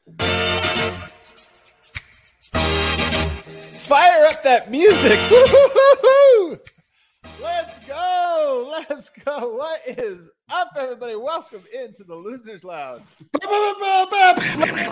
Fire up that music. Woo-hoo-hoo-hoo. Let's go. Let's go. What is up, everybody? Welcome into the Losers Lounge. Let's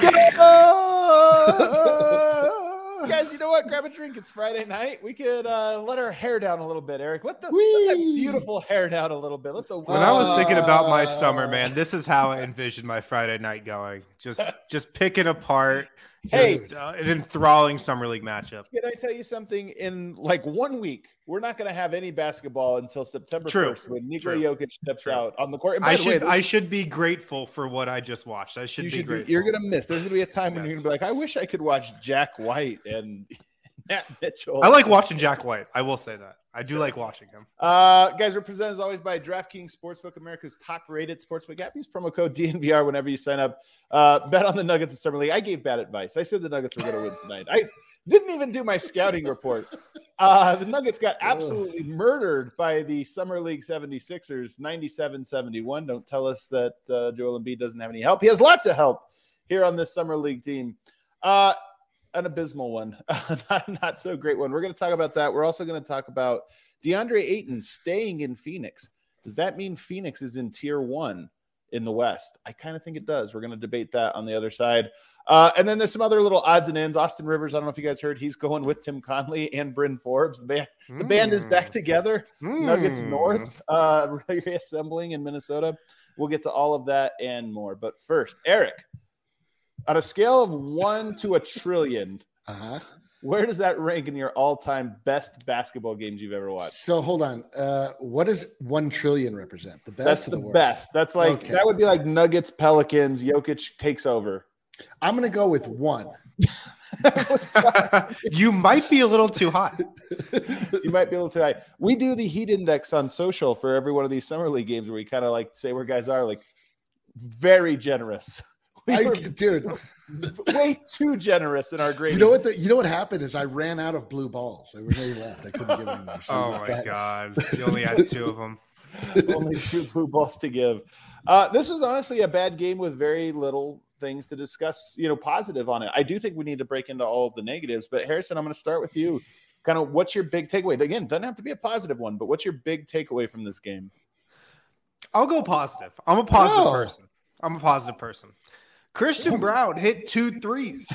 go. Guys, you know what? Grab a drink. It's Friday night. We could let our hair down a little bit, Eric. Let that beautiful hair down a little bit. When I was thinking about my summer, man, this is how I envisioned my Friday night going. Just picking apart. An enthralling summer league matchup. Can I tell you something? In like 1 week, we're not going to have any basketball until September 1st when Nikola Jokic steps out on the court. And I should be grateful for what I just watched. I should be grateful. You're going to miss. There's going to be a time when you're going to be like, I wish I could watch Jack White and Matt Mitchell. I like watching Jack White. I will say that. I do like watching him. Guys, we're presented as always by DraftKings Sportsbook, America's top-rated sportsbook app. Use promo code DNVR whenever you sign up. Bet on the Nuggets in Summer League. I gave bad advice. I said the Nuggets were going to win tonight. I didn't even do my scouting report. The Nuggets got absolutely murdered by the Summer League 76ers, 97-71. Don't tell us that Joel Embiid doesn't have any help. He has lots of help here on this Summer League team. An abysmal one, not so great one. We're going to talk about that. We're also going to talk about DeAndre Ayton staying in Phoenix. Does that mean Phoenix is in tier 1 in the West? I kind of think it does. We're going to debate that on the other side. And then there's some other little odds and ends. Austin Rivers, I don't know if you guys heard, he's going with Tim Conley and Bryn Forbes. The band is back together. Nuggets North reassembling in Minnesota. We'll get to all of that and more. But first, Eric, on a scale of 1 to a trillion, where does that rank in your all-time best basketball games you've ever watched? So hold on. What does 1 trillion represent? The best? That's the best. That's like that would be like Nuggets, Pelicans, Jokic takes over. I'm going to go with 1. You might be a little too high. You might be a little too high. We do the heat index on social for every one of these Summer League games where we kind of like say where guys are, like very generous. Dude, way too generous in our grade. You know what happened is I ran out of blue balls. Everybody left. I couldn't give them more. So God! You only had 2 of them. Only 2 blue balls to give. This was honestly a bad game with very little things to discuss. Positive on it. I do think we need to break into all of the negatives. But Harrison, I'm going to start with you. Kind of, what's your big takeaway? Again, doesn't have to be a positive one, but what's your big takeaway from this game? I'll go positive. I'm a positive person. Christian Brown hit 2 threes.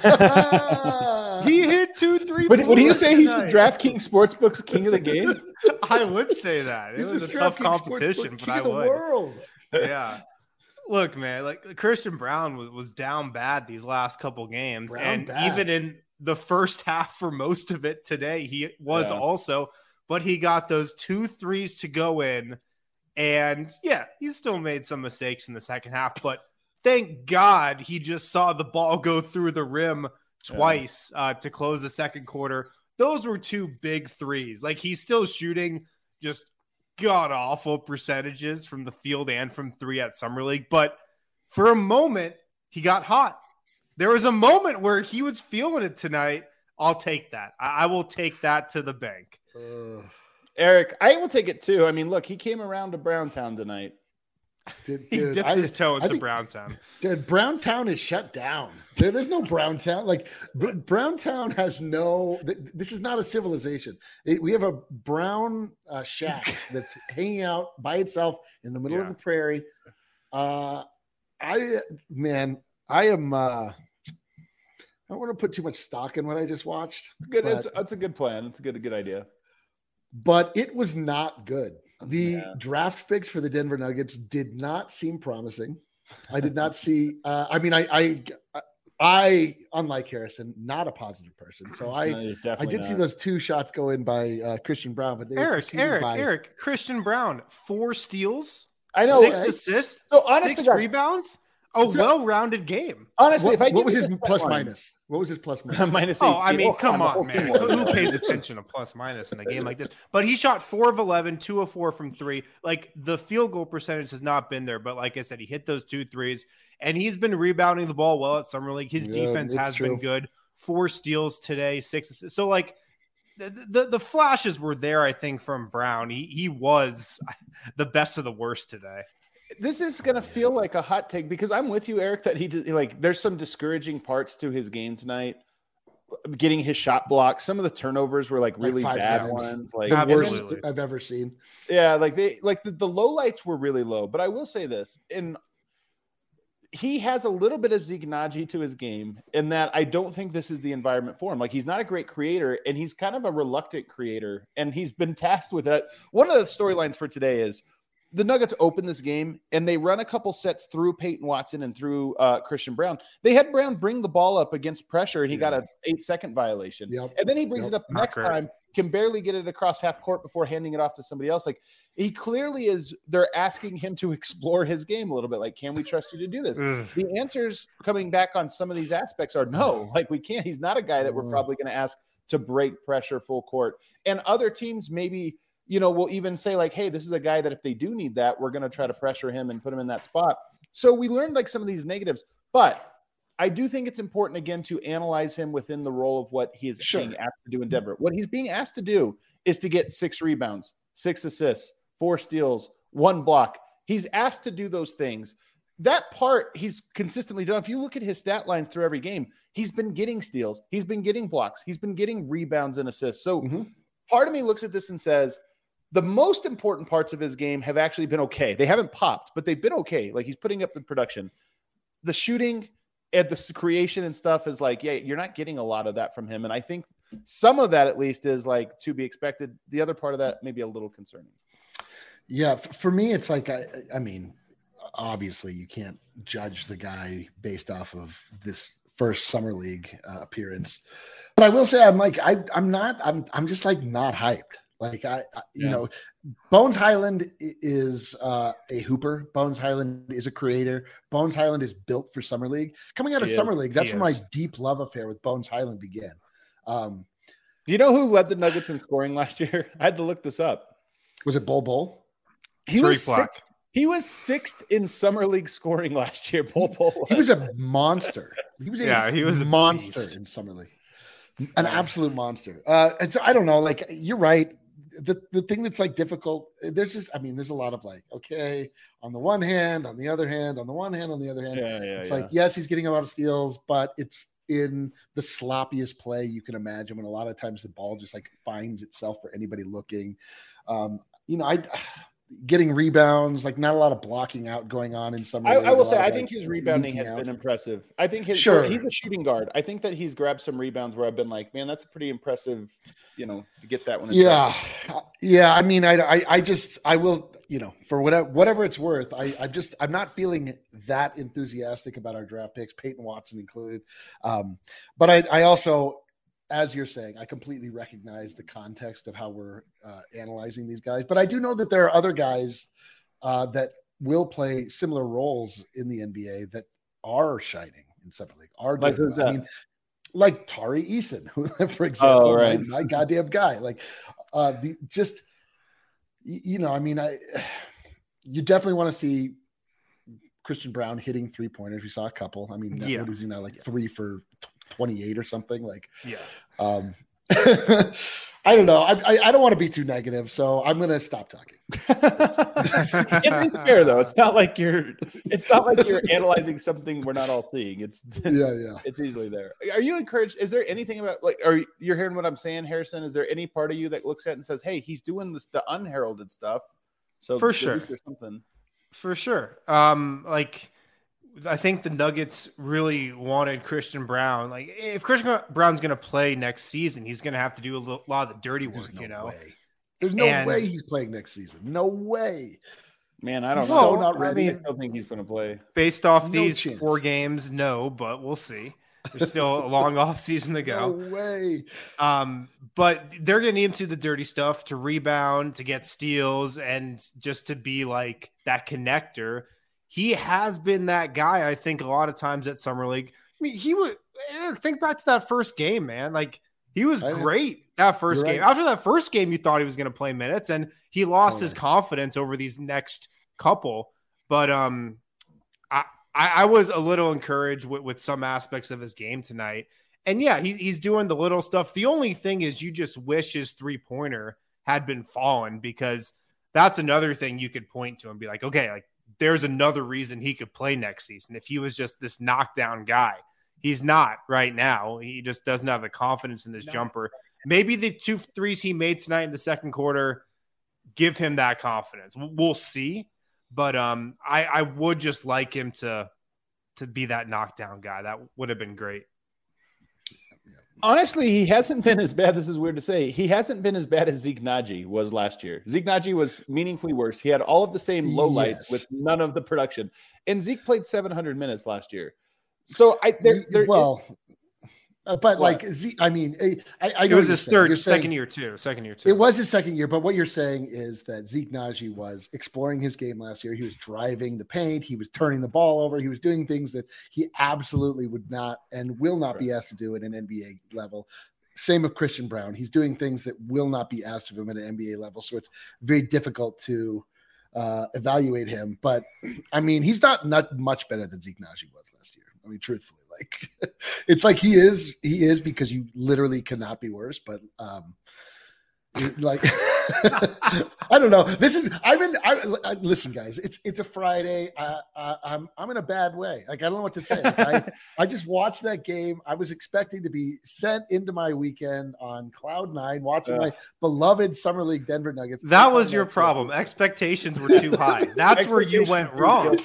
He hit 2 3. Would you say he's the DraftKings Sportsbook's king of the game? I would say that. It was a tough competition, but I would. World. Yeah. Look, man, like Christian Brown was down bad these last couple games. Even in the first half for most of it today, he was also, but he got those 2 threes to go in. And he still made some mistakes in the second half, but thank God he just saw the ball go through the rim twice to close the second quarter. Those were 2 big threes. Like, he's still shooting just god-awful percentages from the field and from 3 at Summer League. But for a moment, he got hot. There was a moment where he was feeling it tonight. I'll take that. I will take that to the bank. Eric, I will take it too. I mean, look, he came around to Browntown tonight. Dude, he dipped his toe into Browntown. Dude, Browntown is shut down. There's no Browntown. Like, Browntown has no. This is not a civilization. We have a brown shack that's hanging out by itself in the middle of the prairie. I am. I don't want to put too much stock in what I just watched. Good. That's a good plan. It's a good idea. But it was not good. The draft picks for the Denver Nuggets did not seem promising. I did not see. I, unlike Harrison, not a positive person. So I did see those 2 shots go in by Christian Brown. But Eric, Christian Brown, 4 steals. I know, 6 assists, 6 rebounds. Well-rounded game. Honestly, what was his plus minus? What was his plus minus? Minus 8. Oh, I mean, come on, man. Who pays attention to plus minus in a game like this? But he shot 4 of 11, 2 of 4 from 3. Like, the field goal percentage has not been there. But like I said, he hit those 2 threes. And he's been rebounding the ball well at Summer League. His defense has been good. 4 steals today, 6 assists. So, like, the flashes were there, I think, from Brown. He was the best of the worst today. This is going to feel like a hot take because I'm with you, Eric, that there's some discouraging parts to his game tonight. Getting his shot blocked. Some of the turnovers were really bad ones. Like the worst I've ever seen. Yeah. The low lights were really low, but I will say this, he has a little bit of Zeke Nnaji to his game in that I don't think this is the environment for him. He's not a great creator and he's kind of a reluctant creator and he's been tasked with that. One of the storylines for today is the Nuggets open this game and they run a couple sets through Peyton Watson and through Christian Brown. They had Brown bring the ball up against pressure and he got an 8-second violation. Yep. And then he brings it up next time, can barely get it across half court before handing it off to somebody else. He clearly they're asking him to explore his game a little bit. Can we trust you to do this? The answers coming back on some of these aspects are no, we can't. He's not a guy that we're probably going to ask to break pressure full court. And other teams maybe, we'll even say hey, this is a guy that if they do need that, we're going to try to pressure him and put him in that spot. So we learned some of these negatives, but I do think it's important again to analyze him within the role of what he is being asked to do in Denver. What he's being asked to do is to get 6 rebounds, 6 assists, 4 steals, 1 block. He's asked to do those things. That part he's consistently done. If you look at his stat lines through every game, he's been getting steals. He's been getting blocks. He's been getting rebounds and assists. So part of me looks at this and says, the most important parts of his game have actually been okay. They haven't popped, but they've been okay. He's putting up the production. The shooting and the creation and stuff is you're not getting a lot of that from him. And I think some of that at least is to be expected. The other part of that may be a little concerning. Yeah. For me, it's I mean, obviously you can't judge the guy based off of this first summer league appearance, but I will say I'm just not hyped. Bones Hyland is a hooper. Bones Hyland is a creator. Bones Hyland is built for Summer League. Coming out of Summer League, that's where my deep love affair with Bones Hyland began. Do you know who led the Nuggets in scoring last year? I had to look this up. Was it Bol? He was sixth. He was 6th in Summer League scoring last year. Bol. He was a monster. He was a monster in Summer League. An absolute monster. And so I don't know. You're right. The thing that's difficult, there's a lot of okay, on the one hand, on the other hand, on the one hand, on the other hand. It's yes, he's getting a lot of steals, but it's in the sloppiest play you can imagine when a lot of times the ball just finds itself for anybody looking. Getting rebounds, not a lot of blocking out going on in some. I will say, I think his rebounding has been impressive. I think he's a shooting guard. I think that he's grabbed some rebounds where I've been man, that's a pretty impressive, to get that one. Yeah. I mean, I will, for whatever it's worth, I'm not feeling that enthusiastic about our draft picks, Peyton Watson included. But I also, as you're saying, I completely recognize the context of how we're analyzing these guys. But I do know that there are other guys that will play similar roles in the NBA that are shining in Summer League. Like Tari Eason, who, for example, my goddamn guy. You definitely want to see Christian Brown hitting 3-pointers. We saw a couple. What was he now, 3 for 28 or something? I don't know. I don't want to be too negative, so I'm going to stop talking. It is fair though. It's not like you're analyzing something we're not all seeing. It's It's easily there. Are you encouraged? Is there anything about you're hearing what I'm saying, Harrison? Is there any part of you that looks at it and says, "Hey, he's doing the unheralded stuff"? So for sure, there's something. For sure. I think the Nuggets really wanted Christian Brown. If Christian Brown's going to play next season, he's going to have to do a lot of the dirty work, Way. There's no way he's playing next season. No way. Man, I don't know. So not ready. I still think he's going to play. Based off these 4 games, no, but we'll see. There's still a long off season to go. No way. But they're going to need him to do the dirty stuff, to rebound, to get steals, and just to be that connector. He has been that guy, I think, a lot of times at Summer League. Eric, think back to that first game, man. He was great that first game. Right. After that first game, you thought he was going to play minutes, and he lost his confidence over these next couple. But I was a little encouraged with some aspects of his game tonight. And yeah, he's doing the little stuff. The only thing is you just wish his 3-pointer had been fallen, because that's another thing you could point to and be okay, there's another reason he could play next season if he was just this knockdown guy. He's not right now. He just doesn't have the confidence in his jumper. Maybe the 2 threes he made tonight in the second quarter give him that confidence. We'll see. But I would just like him to be that knockdown guy. That would have been great. Honestly, he hasn't been as bad. This is weird to say. He hasn't been as bad as Zeke Naji was last year. Zeke Naji was meaningfully worse. He had all of the same lowlights with none of the production. And Zeke played 700 minutes last year. So but like, I mean, I know it was his second year too. It was his second year, but what you're saying is that Zeke Naji was exploring his game last year. He was driving the paint. He was turning the ball over. He was doing things that he absolutely would not and will not be asked to do at an NBA level. Same with Christian Braun. He's doing things that will not be asked of him at an NBA level. So it's very difficult to evaluate him. But I mean, he's not much better than Zeke Naji was last year. I mean, truthfully, like it's like he is because you literally cannot be worse. But like I don't know. Listen, guys. It's a Friday. I'm in a bad way. Like I don't know what to say. Like, I just watched that game. I was expecting to be sent into my weekend on cloud 9, watching my beloved Summer League Denver Nuggets. That was your problem. Expectations were too high. That's where you went wrong.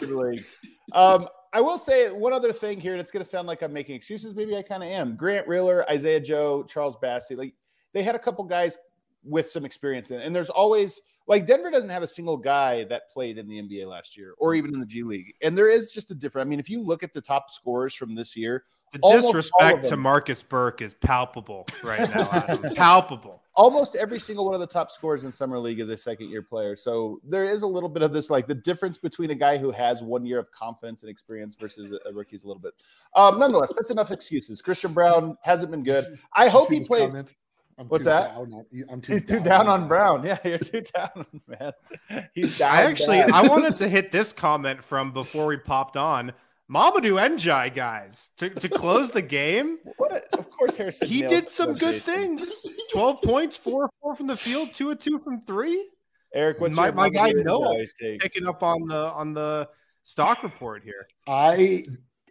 I will say one other thing here, and it's going to sound like I'm making excuses. Maybe I kind of am. Grant Riller, Isaiah Joe, Charles Bassey, like they had a couple guys with some experience in it. And there's always like Denver doesn't have a single guy that played in the NBA last year or even in the G League. And there is just a difference. I mean, if you look at the top scorers from this year, the disrespect to Marcus Burke is palpable right now. Adam. Palpable. Almost every single one of the top scorers in Summer League is a second-year player. So there is a little bit of this, like the difference between a guy who has 1 year of confidence and experience versus a rookie is a little bit. Nonetheless, that's enough excuses. Christian Braun hasn't been good. I hope he plays. What's that? He's too down on Brown. Yeah, you're too down, man. He's down. I wanted to hit this comment from before we popped on. Mamadou Ndiaye, guys, to close the game. Of course, Harrison. He did some good things. 12 points, 4 from the field, 2 of 2 from 3. Eric, what's my guy Noah picking up on the stock report here? I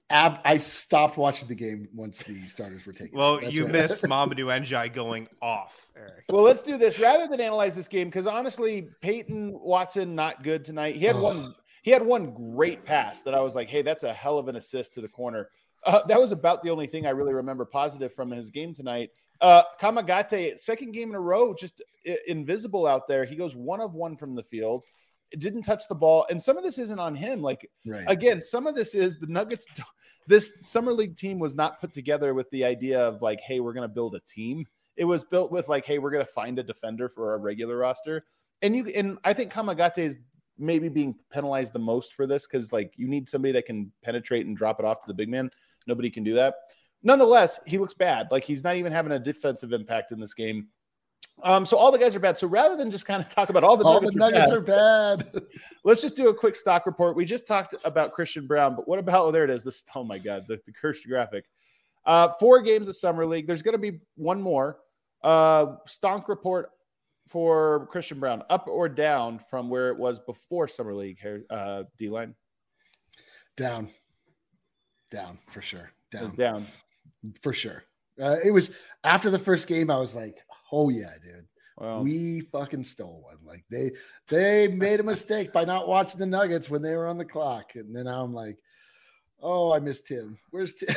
stopped watching the game once the starters were taken. Well, you missed Mamadou Ndiaye going off, Eric. Well, let's do this rather than analyze this game because honestly, Peyton Watson not good tonight. He had one great pass that I was like, hey, that's a hell of an assist to the corner. That was about the only thing I really remember positive from his game tonight. Kamagate, second game in a row, just invisible out there. He goes 1 of 1 from the field. It didn't touch the ball. And some of this isn't on him. Like, Again, some of this is the Nuggets. This Summer League team was not put together with the idea of like, hey, we're going to build a team. It was built with like, hey, we're going to find a defender for our regular roster. And I think Kamagate is maybe being penalized the most for this because like you need somebody that can penetrate and drop it off to the big man. Nobody can do that. Nonetheless, he looks bad. Like he's not even having a defensive impact in this game. So all the guys are bad. So rather than just kind of talk about all the Nuggets are bad, let's just do a quick stock report. We just talked about Christian Braun, but what about, there it is. This, oh my God, the cursed graphic. 4 games of Summer League. There's going to be one more stonk report for Christian Braun, up or down from where it was before Summer League here, D-line? Down for sure. Down for sure. It was after the first game. I was like, oh yeah, dude. Well, we fucking stole one. Like they made a mistake by not watching the Nuggets when they were on the clock. And then I'm like, oh, I miss Tim. Where's Tim?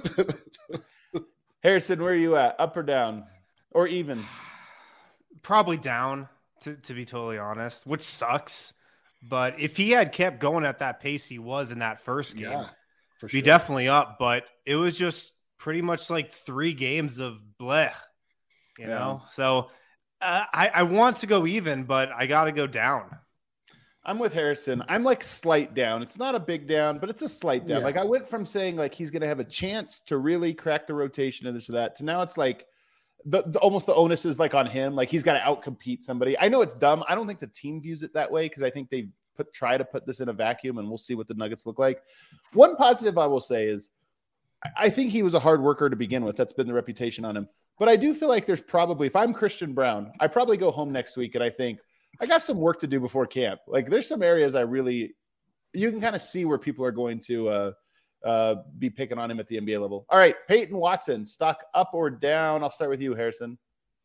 Harrison, where are you at? Up or down? Or even? Probably down, to be totally honest, which sucks. But if he had kept going at that pace he was in that first game, for sure, be definitely up. But it was just pretty much like 3 games of bleh, you know? So I want to go even, but I got to go down. I'm with Harrison. I'm like slight down. It's not a big down, but it's a slight down. Yeah. Like I went from saying like he's going to have a chance to really crack the rotation and this or that to now it's like almost the onus is like on him. Like he's got to outcompete somebody. I know it's dumb. I don't think the team views it that way because I think they try to put this in a vacuum and we'll see what the Nuggets look like. One positive I will say is I think he was a hard worker to begin with. That's been the reputation on him. But I do feel like there's probably, if I'm Christian Braun, I probably go home next week and I think I got some work to do before camp. Like there's some areas I really you can kind of see where people are going to be picking on him at the NBA level. All right, Peyton Watson, stock up or down? I'll start with you, Harrison.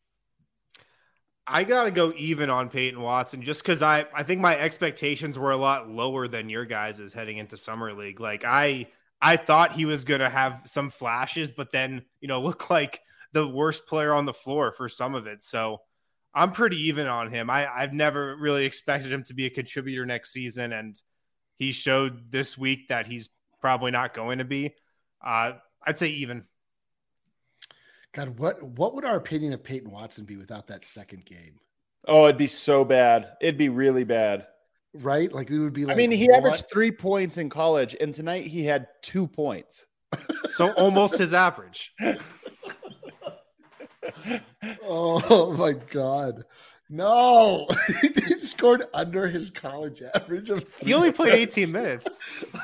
I got to go even on Peyton Watson just because I think my expectations were a lot lower than your guys' heading into Summer League. Like I thought he was going to have some flashes, but then, look like the worst player on the floor for some of it. So I'm pretty even on him. I've never really expected him to be a contributor next season, and he showed this week that he's probably not going to be. I'd say even. God, what would our opinion of Peyton Watson be without that second game? Oh, it'd be so bad. It'd be really bad. Right? Like we would be like, I mean, he averaged 3 points in college, and tonight he had 2 points. So almost his average. Oh my God. No, he scored under his college average of 3. He only played 18 minutes.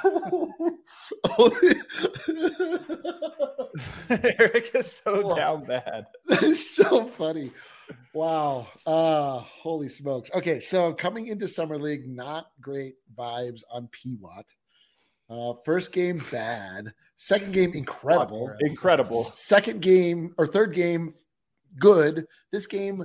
Eric is so down bad. That is so funny. Wow. Holy smokes. Okay, so coming into Summer League, not great vibes on P-Watt. First game, bad. Second game, incredible. Incredible. Second game or third game, good. This game,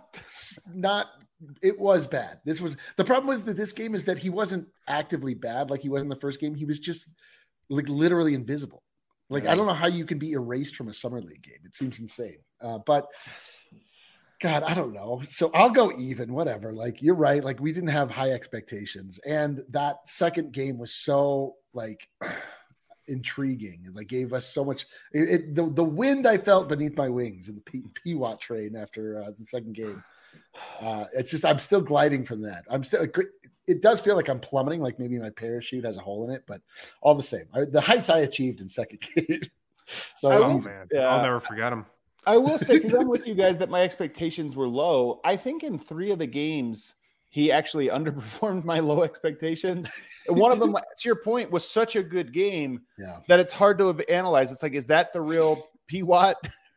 it was bad. The problem was that this game is that he wasn't actively bad like he was in the first game. He was just like literally invisible. Like, I don't know how you can be erased from a Summer League game. It seems insane. But God, I don't know. So I'll go even, whatever. Like, you're right. Like, we didn't have high expectations. And that second game was so like intriguing and like gave us so much. The wind I felt beneath my wings in the P-Watt train after the second game. It's just, I'm still gliding from that. It does feel like I'm plummeting, like maybe my parachute has a hole in it, but all the same, the heights I achieved in second game. So, I'll never forget them. I will say, because I'm with you guys, that my expectations were low. I think in 3 of the games, he actually underperformed my low expectations. And one of them, to your point, was such a good game that it's hard to have analyzed. It's like, is that the real P-Watt?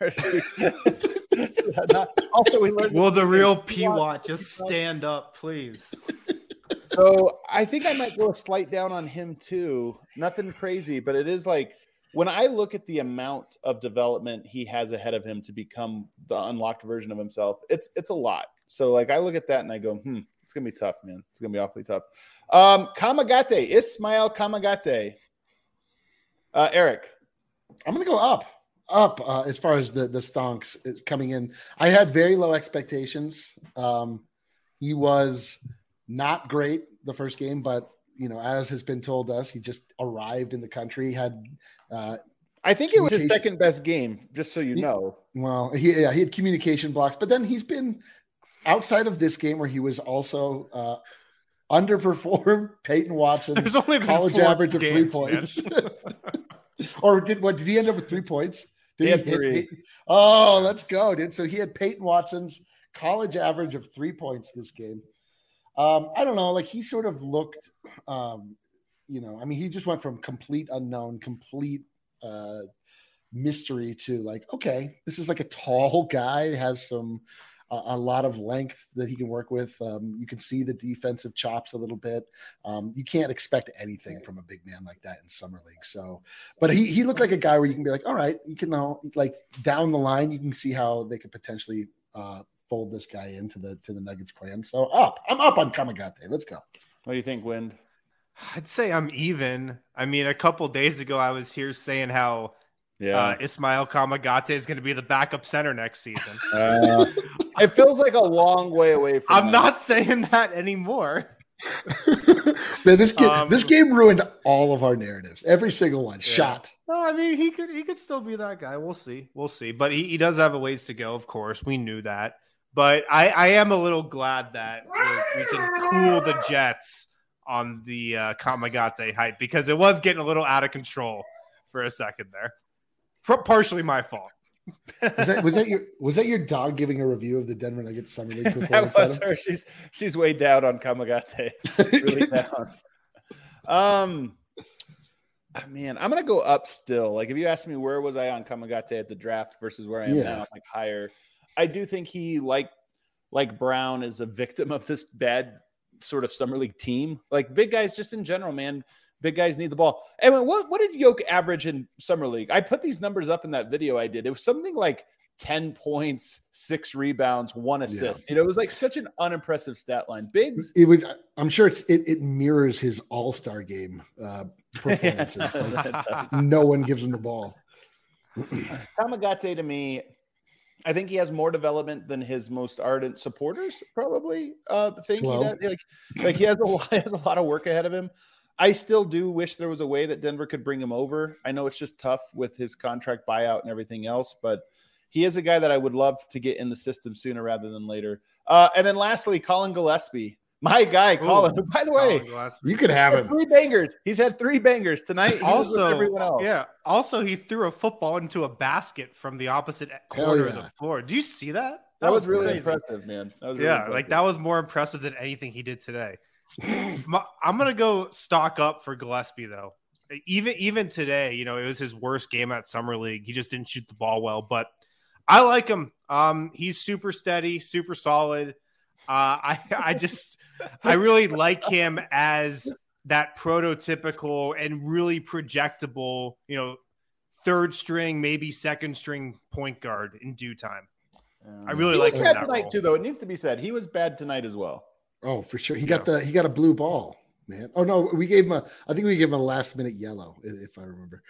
Also, we learned. Will the real P-Watt just stand up, please? So I think I might go a slight down on him too. Nothing crazy, but it is like when I look at the amount of development he has ahead of him to become the unlocked version of himself, it's a lot. So like I look at that and I go, it's gonna be tough, man. It's gonna be awfully tough. Kamagate, Ismail Kamagate. Eric, I'm gonna go up as far as the stonks coming in. I had very low expectations. He was not great the first game, but as has been told us, he just arrived in the country. Had I think it was his second best game, just so you know. Well, he had communication blocks, but then he's been outside of this game where he was also underperformed Peyton Watson. There's only college average of 3 points. Or did he end up with 3 points? He had 3. Let's go, dude. So he had Peyton Watson's college average of 3 points this game. I don't know. Like he sort of looked, he just went from complete unknown, complete mystery to like, okay, this is like a tall guy, has a lot of length that he can work with. You can see the defensive chops a little bit. You can't expect anything from a big man like that in Summer League. So, but he looked like a guy where you can be like, all right, you can now like down the line, you can see how they could potentially fold this guy into the Nuggets plan. So I'm up on Kamagate. Let's go. What do you think, Wind? I'd say I'm even. I mean, a couple days ago, I was here saying how Ismail Kamagate is going to be the backup center next season. It feels like a long way away from I'm not saying that anymore. Man, this game ruined all of our narratives. Every single one. Shot. No, I mean, he could still be that guy. We'll see. But he does have a ways to go, of course. We knew that. But I am a little glad that we can cool the Jets on the Kamagate hype because it was getting a little out of control for a second there. Partially my fault. Was that your dog giving a review of the Denver Nuggets Summer League performance? That was her. She's way down on Kamagate. Really down. Man, I'm gonna go up still. Like if you ask me where was I on Kamagate at the draft versus where I am now, I'm like higher. I do think he like Brown is a victim of this bad sort of summer league team. Like big guys, just in general, man. Big guys need the ball. And what did Yoke average in summer league? I put these numbers up in that video I did. It was something like 10 points, 6 rebounds, 1 assist. Yeah. It was like such an unimpressive stat line. Biggs. It was. I'm sure it mirrors his All-Star game performances. Like, no one gives him the ball. Tamagate to me, I think he has more development than his most ardent supporters probably think he does. Like he has a lot of work ahead of him. I still do wish there was a way that Denver could bring him over. I know it's just tough with his contract buyout and everything else, but he is a guy that I would love to get in the system sooner rather than later. And then lastly, Colin Gillespie. My guy, Colin. By the way, you could have him. 3 bangers. He's had 3 bangers tonight. Also, everyone else. Yeah. Also, he threw a football into a basket from the opposite corner of the floor. Do you see that? That was really impressive, man. That was really impressive. Like that was more impressive than anything he did today. I'm gonna go stock up for Gillespie though. Even today, it was his worst game at Summer League. He just didn't shoot the ball well, but I like him. He's super steady, super solid. I really like him as that prototypical and really projectable, third string, maybe second string point guard in due time. I really like him tonight too, though. It needs to be said he was bad tonight as well. Oh, for sure. He got a blue ball, man. Oh no, I think we gave him a last minute yellow, if I remember.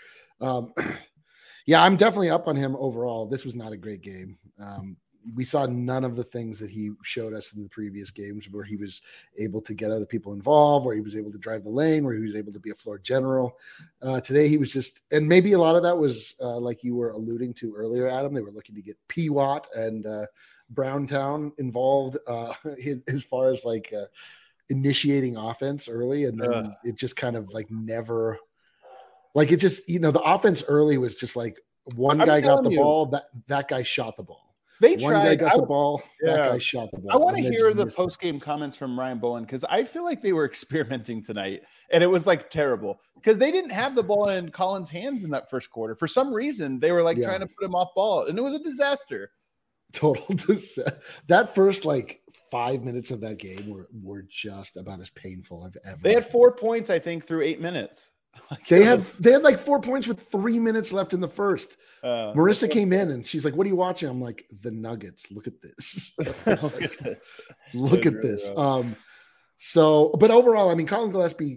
Yeah, I'm definitely up on him overall. This was not a great game. We saw none of the things that he showed us in the previous games where he was able to get other people involved, where he was able to drive the lane, where he was able to be a floor general. Today he was just, and maybe a lot of that was like you were alluding to earlier, Adam, they were looking to get P-Watt and Browntown involved as far as like initiating offense early. And then it just kind of like never, like it just, the offense early was just like one guy got the ball, that guy shot the ball. They tried. One guy got the ball. That guy shot the ball. I want to hear the post-game comments from Ryan Bowen because I feel like they were experimenting tonight, and it was like terrible because they didn't have the ball in Collins' hands in that first quarter. For some reason, they were like trying to put him off ball, and it was a disaster. Total disaster. That first 5 minutes of that game were just about as painful I've ever. They had 4 points, I think, through 8 minutes. They had like 4 points with 3 minutes left in the first. Marissa came in and she's like, "What are you watching?" I'm like, "The Nuggets. Look at this. Look at this." So, but overall, I mean, Colin Gillespie,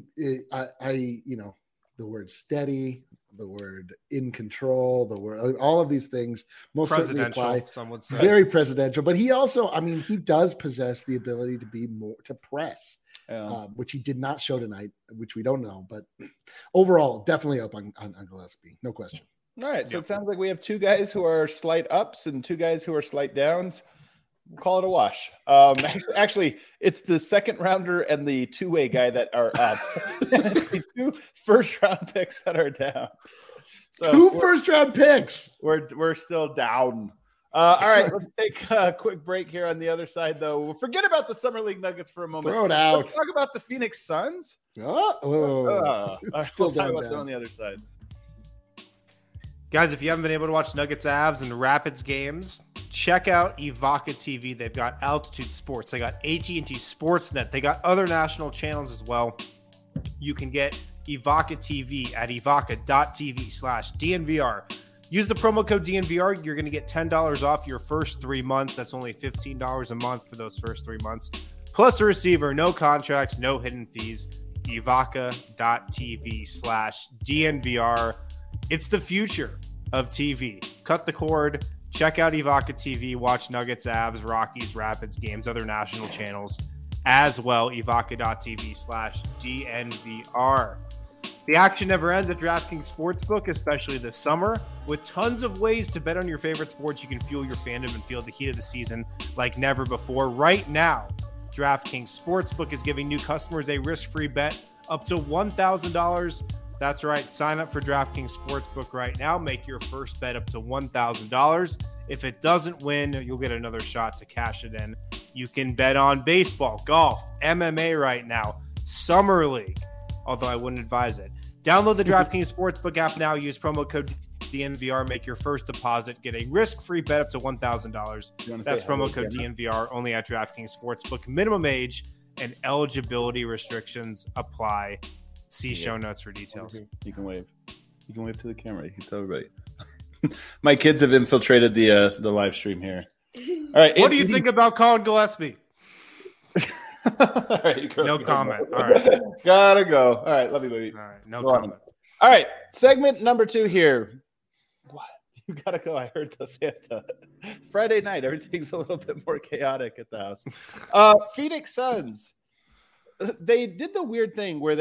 the word steady, the word in control, the word, all of these things most certainly apply. Some would say. Very presidential, but he also, he does possess the ability to be more to press. Which he did not show tonight, which we don't know. But overall, definitely up on Gillespie. No question. All right. So it sounds like we have 2 guys who are slight ups and 2 guys who are slight downs. We'll call it a wash. Actually, it's the second rounder and the 2-way guy that are up. It's the 2 first-round picks that are down. So 2 first-round picks. We're still down. All right, let's take a quick break here on the other side, though. We'll forget about the Summer League Nuggets for a moment. Throw it out. Let's talk about the Phoenix Suns. All right, we'll talk about them on the other side. Guys, if you haven't been able to watch Nuggets, Avs, and Rapids games, check out Evoca TV. They've got Altitude Sports. They got AT&T Sportsnet. They got other national channels as well. You can get Evoca TV at evoca.tv/DNVR. Use the promo code DNVR. You're going to get $10 off your first 3 months. That's only $15 a month for those first 3 months. Plus a receiver, no contracts, no hidden fees. Evoca.tv/DNVR. It's the future of TV. Cut the cord. Check out Evoca TV. Watch Nuggets, Avs, Rockies, Rapids games, other national channels as well. Evoca.tv/DNVR. The action never ends at DraftKings Sportsbook, especially this summer. With tons of ways to bet on your favorite sports, you can fuel your fandom and feel the heat of the season like never before. Right now, DraftKings Sportsbook is giving new customers a risk-free bet up to $1,000. That's right. Sign up for DraftKings Sportsbook right now. Make your first bet up to $1,000. If it doesn't win, you'll get another shot to cash it in. You can bet on baseball, golf, MMA right now, Summer League, although I wouldn't advise it. Download the DraftKings Sportsbook app now. Use promo code DNVR. Make your first deposit. Get a risk-free bet up to $1,000. That's promo code DNVR only at DraftKings Sportsbook. Minimum age and eligibility restrictions apply. See show notes for details. You can wave. You can wave to the camera. You can tell everybody. My kids have infiltrated the live stream here. All right. What do you think about Colin Gillespie? All right, no comment. All right. Gotta go. All right. Love you, baby. All right. No comment. All right. Segment number 2 here. What? You gotta go. I heard the Fanta. Friday night, everything's a little bit more chaotic at the house. Phoenix Suns. They did the weird thing where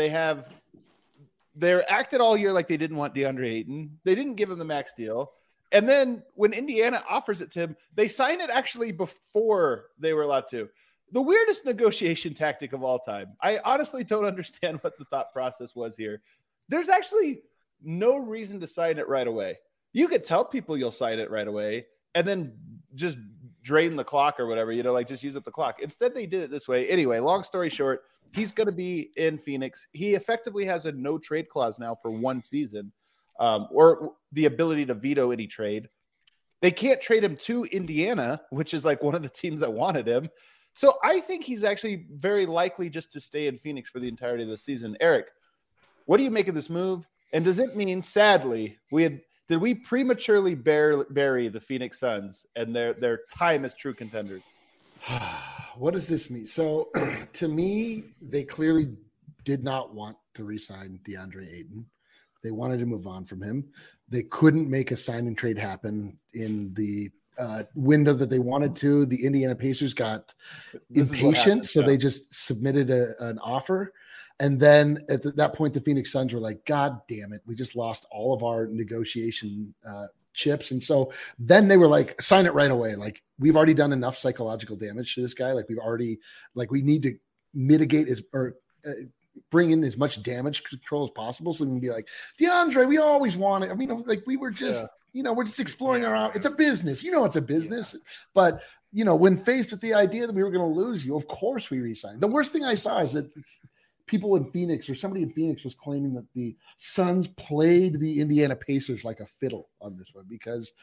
they're acted all year like they didn't want DeAndre Ayton. They didn't give him the max deal. And then when Indiana offers it to him, they sign it actually before they were allowed to. The weirdest negotiation tactic of all time. I honestly don't understand what the thought process was here. There's actually no reason to sign it right away. You could tell people you'll sign it right away and then just drain the clock or whatever, like just use up the clock. Instead, they did it this way. Anyway, long story short, he's going to be in Phoenix. He effectively has a no trade clause now for 1 season, or the ability to veto any trade. They can't trade him to Indiana, which is like one of the teams that wanted him. So I think he's actually very likely just to stay in Phoenix for the entirety of the season. Eric, what do you make of this move? And does it mean, sadly, did we prematurely bury the Phoenix Suns and their time as true contenders? What does this mean? So to me, they clearly did not want to re-sign DeAndre Ayton. They wanted to move on from him. They couldn't make a sign and trade happen in the window that they wanted to. The Indiana Pacers got impatient, so they just submitted an offer. And then at that point, the Phoenix Suns were like, God damn it, we just lost all of our negotiation chips. And so then they were like, sign it right away. Like, we've already done enough psychological damage to this guy. Like, we need to mitigate bring in as much damage control as possible. So we can be like, DeAndre, we always wanted. I mean, like, we were just, we're just exploring around. It's a business. It's a business. Yeah. But, when faced with the idea that we were going to lose you, of course we re-signed. The worst thing I saw is that people in Phoenix, or somebody in Phoenix, was claiming that the Suns played the Indiana Pacers like a fiddle on this one because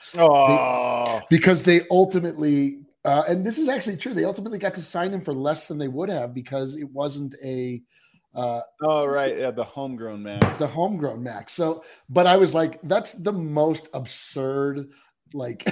they ultimately, and this is actually true, they ultimately got to sign him for less than they would have because it wasn't the homegrown max. The homegrown max. So, but I was like, that's the most absurd. Like,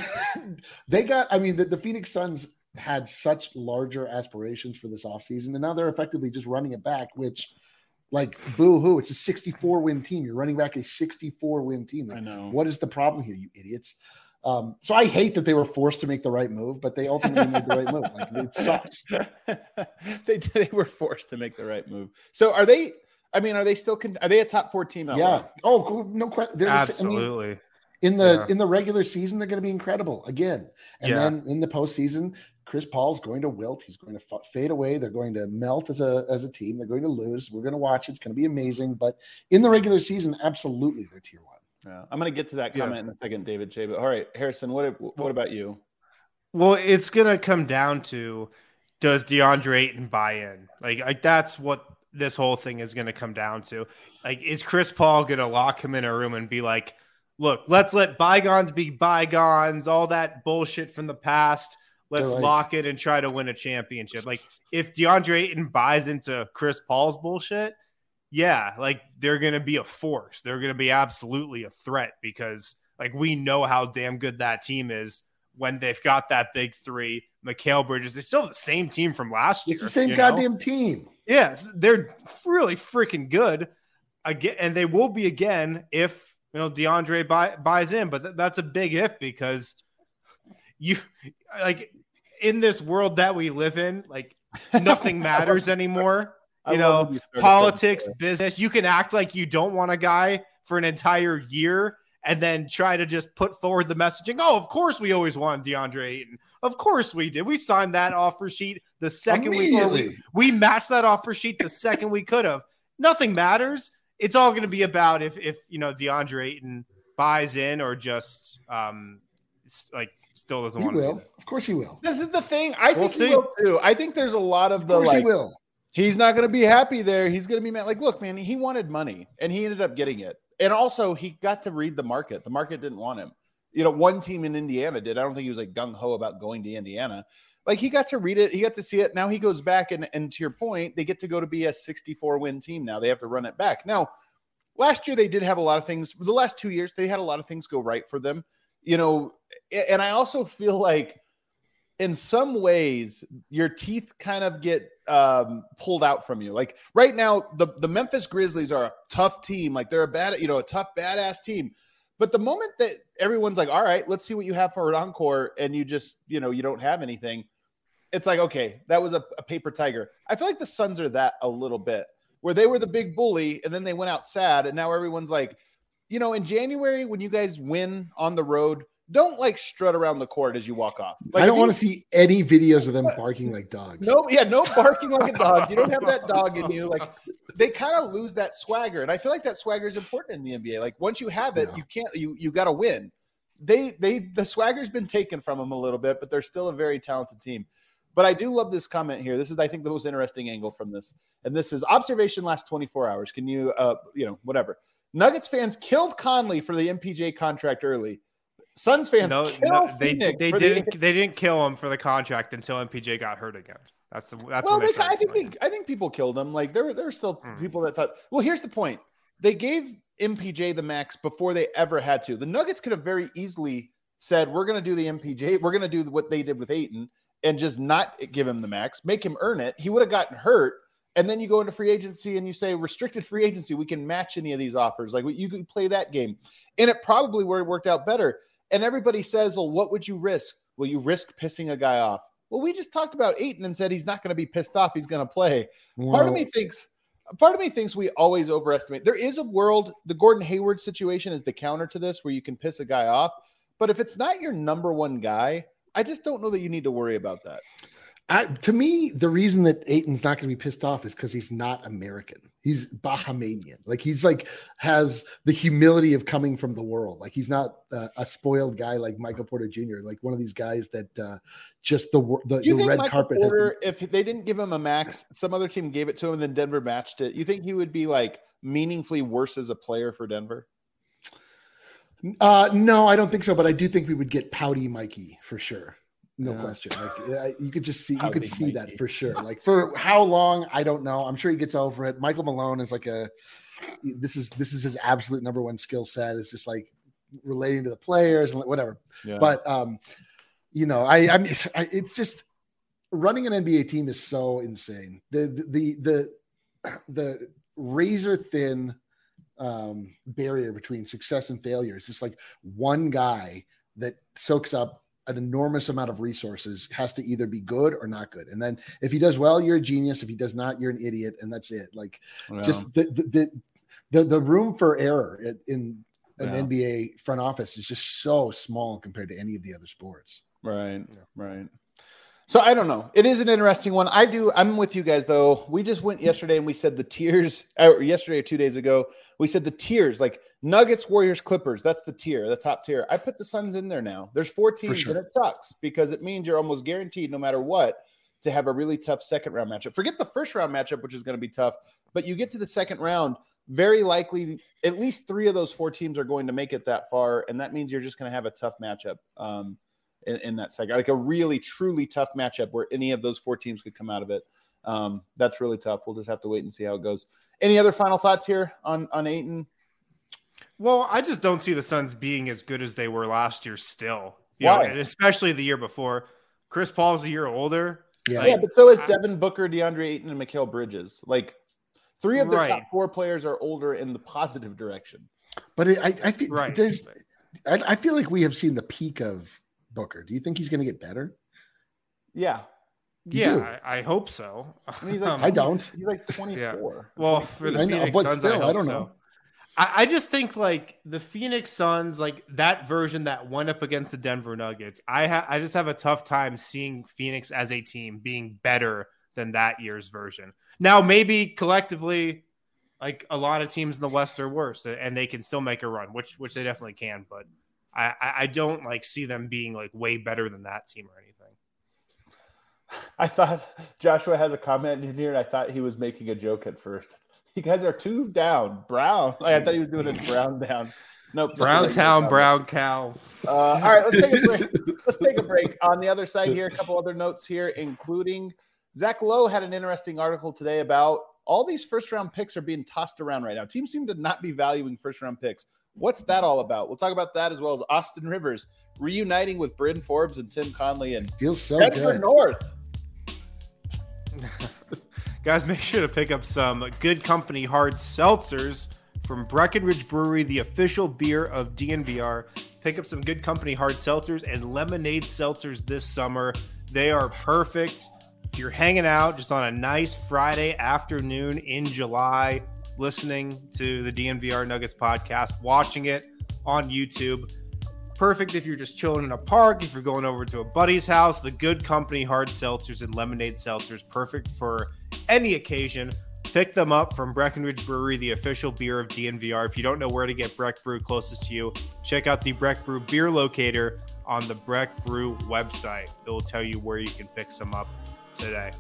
the Phoenix Suns had such larger aspirations for this offseason, and now they're effectively just running it back, which, like, boo-hoo, it's a 64-win team. You're running back a 64-win team. Like, I know. What is the problem here, you idiots? So I hate that they were forced to make the right move, but they ultimately made the right move. Like, it sucks. They were forced to make the right move. So are they a top 4 team? Yeah. Oh, cool. No question. Absolutely. In the regular season, they're going to be incredible again. And then in the postseason, Chris Paul's going to wilt. He's going to fade away. They're going to melt as a team. They're going to lose. We're going to watch it. It's going to be amazing. But in the regular season, absolutely, they're tier 1. Yeah, I'm going to get to that comment in a second, David J. But all right, Harrison, what about you? Well, it's going to come down to, does DeAndre Ayton buy in? Like that's what this whole thing is going to come down to. Like, is Chris Paul going to lock him in a room and be like, look, let's let bygones be bygones, all that bullshit from the past. Let's lock it and try to win a championship. Like, if DeAndre Ayton buys into Chris Paul's bullshit, like, they're going to be a force. They're going to be absolutely a threat because, like, we know how damn good that team is when they've got that big 3. Mikal Bridges, they still have the same team from last year. It's the same goddamn team. Yes, they're really freaking good. Again, and they will be again if DeAndre buys in, but that's a big if, because in this world that we live in, like, nothing matters anymore. Politics, business. You can act like you don't want a guy for an entire year and then try to just put forward the messaging. Oh, of course we always wanted DeAndre Ayton. Of course we did. We signed that offer sheet the second we matched that offer sheet the second we could have. Nothing matters. It's all going to be about if DeAndre Ayton buys in or just still doesn't want to. He will. Of course he will. This is the thing. I think he will too. I think there's a lot of the he will. He's not going to be happy there. He's going to be mad. Like, look, man, he wanted money and he ended up getting it. And also he got to read the market. The market didn't want him. One team in Indiana did. I don't think he was like gung-ho about going to Indiana. like he got to read it. He got to see it. Now he goes back and to your point, they get to go to be a 64 win team. Now they have to run it back. Now, last year they did have a lot of things. The last 2 years, they had a lot of things go right for them, and I also feel like in some ways your teeth kind of get pulled out from you. Like right now, the Memphis Grizzlies are a tough team. Like they're a tough, badass team. But the moment that everyone's like, all right, let's see what you have for an encore, and you just, you don't have anything, it's like, okay, that was a paper tiger. I feel like the Suns are that a little bit, where they were the big bully, and then they went out sad, and now everyone's like, in January when you guys win on the road, don't like strut around the court as you walk off. Like, I don't want to see any videos of them barking like dogs. No barking like a dog. You don't have that dog in you. Like they kind of lose that swagger, and I feel like that swagger is important in the NBA. Like once you have it, you can't. You got to win. The swagger's been taken from them a little bit, but they're still a very talented team. But I do love this comment here. This is, I think, the most interesting angle from this, and this is observation last 24 hours. Can you, whatever. Nuggets fans killed Conley for the MPJ contract early. Suns fans they didn't kill him for the contract until MPJ got hurt again. That's when they started. I think people killed him. Like there were still people that thought. Well, here's the point: they gave MPJ the max before they ever had to. The Nuggets could have very easily said, "We're going to do the MPJ. We're going to do what they did with Ayton and just not give him the max, make him earn it." He would have gotten hurt. And then you go into free agency and you say restricted free agency. We can match any of these offers. Like you could play that game, and it probably would have worked out better. And everybody says, well, what would you risk? Will you risk pissing a guy off? Well, we just talked about Ayton and said he's not going to be pissed off. He's going to play. Part of me thinks we always overestimate. There is a world, the Gordon Hayward situation is the counter to this, where you can piss a guy off. But if it's not your number one guy, I just don't know that you need to worry about that. To me, the reason that Ayton's not going to be pissed off is because he's not American. He's Bahamian. Like he's has the humility of coming from the world. Like he's not a spoiled guy like Michael Porter Jr. Like one of these guys that just the red Michael carpet. Porter, if they didn't give him a max, some other team gave it to him, and then Denver matched it. You think he would be like meaningfully worse as a player for Denver? No, I don't think so. But I do think we would get pouty Mikey for sure. No question. Like you could just see, you could see that for sure. Like for how long, I don't know. I'm sure he gets over it. Michael Malone is like this is his absolute number one skill set. Is just like relating to the players and whatever. Yeah. But it's just running an NBA team is so insane. The razor thin barrier between success and failure is just like one guy that soaks up an enormous amount of resources, has to either be good or not good. And then if he does well, you're a genius. If he does not, you're an idiot. And that's it. Like just the room for error in an NBA front office is just so small compared to any of the other sports. Right. So I don't know. It is an interesting one. I'm with you guys though. We just went yesterday and we said the tiers, yesterday or 2 days ago, we said the tiers, like Nuggets, Warriors, Clippers. That's the tier, the top tier. I put the Suns in there now. There's 4 teams, and it sucks because it means you're almost guaranteed, no matter what, to have a really tough second round matchup. Forget the first round matchup, which is going to be tough, but you get to the second round, very likely at least 3 of those 4 teams are going to make it that far, and that means you're just going to have a tough matchup in that second, like a really, truly tough matchup where any of those 4 teams could come out of it. That's really tough. We'll just have to wait and see how it goes. Any other final thoughts here on Ayton? Well, I just don't see the Suns being as good as they were last year still. Why? And especially the year before. Chris Paul's a year older. Yeah, but so is Devin Booker, DeAndre Ayton, and Mikal Bridges. Like 3 of their top 4 players are older in the positive direction. But I feel I feel like we have seen the peak of Booker. Do you think he's going to get better? Yeah. I hope so. I mean, he's like, I don't. He's like 24. Yeah. Well, for the Phoenix Suns, I don't know. I just think like the Phoenix Suns, like that version that went up against the Denver Nuggets, I just have a tough time seeing Phoenix as a team being better than that year's version. Now, maybe collectively, like a lot of teams in the West are worse, and they can still make a run, which they definitely can. But I don't like see them being like way better than that team or anything. I thought Joshua has a comment in here, and I thought he was making a joke at first. You guys are 2 down. Brown. Like, I thought he was doing a Brown down. Nope. Brown Town, brown cow. All right, let's take a break. Let's take a break. On the other side here, a couple other notes here, including Zach Lowe had an interesting article today about all these first-round picks are being tossed around right now. Teams seem to not be valuing first-round picks. What's that all about? We'll talk about that as well as Austin Rivers reuniting with Bryn Forbes and Tim Conley and feels so Denver good. North. Guys, make sure to pick up some Good Company hard seltzers from Breckenridge Brewery, the official beer of DNVR. Pick up some Good Company hard seltzers and lemonade seltzers this summer. They are perfect. If you're hanging out just on a nice Friday afternoon in July, listening to the DNVR Nuggets podcast, watching it on YouTube. Perfect if you're just chilling in a park, if you're going over to a buddy's house. The Good Company hard seltzers and lemonade seltzers, perfect for any occasion. Pick them up from Breckenridge Brewery, the official beer of DNVR. If you don't know where to get Breck Brew closest to you, check out the Breck Brew beer locator on the Breck Brew website. It will tell you where you can pick some up today.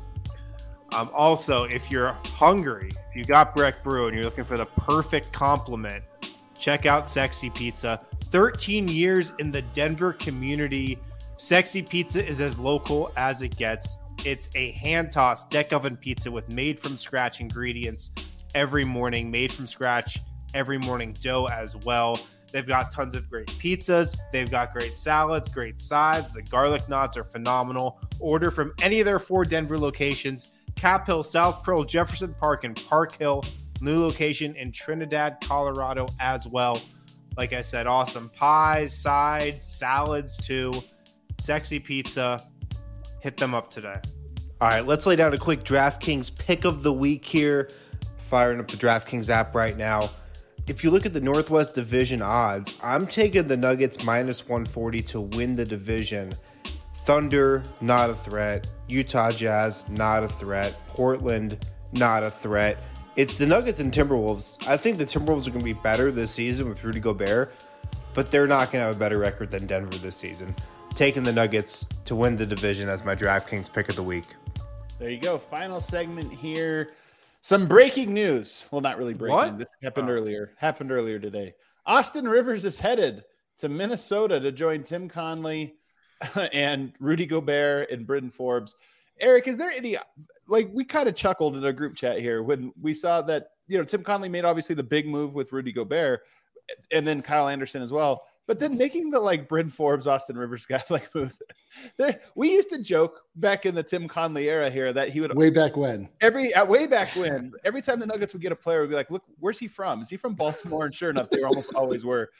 Also, if you're hungry, if you got Breck Brew and you're looking for the perfect compliment, check out Sexy Pizza. 13 years in the Denver community. Sexy Pizza is as local as it gets. It's a hand-tossed deck oven pizza with made-from-scratch ingredients every morning, made from scratch every morning dough as well. They've got tons of great pizzas. They've got great salads, great sides. The garlic knots are phenomenal. Order from any of their 4 Denver locations: Cap Hill, South Pearl, Jefferson Park, and Park Hill. New location in Trinidad, Colorado as well. Like I said, awesome pies, sides, salads too. Sexy Pizza. Hit them up today. All right, let's lay down a quick DraftKings pick of the week here. Firing up the DraftKings app right now. If you look at the Northwest Division odds, I'm taking the Nuggets minus 140 to win the division. Thunder, not a threat. Utah Jazz, not a threat. Portland, not a threat. It's the Nuggets and Timberwolves. I think the Timberwolves are going to be better this season with Rudy Gobert, but they're not going to have a better record than Denver this season. Taking the Nuggets to win the division as my DraftKings pick of the week. There you go. Final segment here. Some breaking news. Well, not really breaking. What? This happened earlier today. Austin Rivers is headed to Minnesota to join Tim Conley and Rudy Gobert and Bryn Forbes. Eric, is there any, like, we kind of chuckled in a group chat here when we saw that, Tim Conley made obviously the big move with Rudy Gobert and then Kyle Anderson as well. But then making the Bryn Forbes, Austin Rivers guy moves. We used to joke back in the Tim Conley era here that he would way back when every time the Nuggets would get a player, we'd be like, look, where's he from? Is he from Baltimore? And sure enough, they almost always were.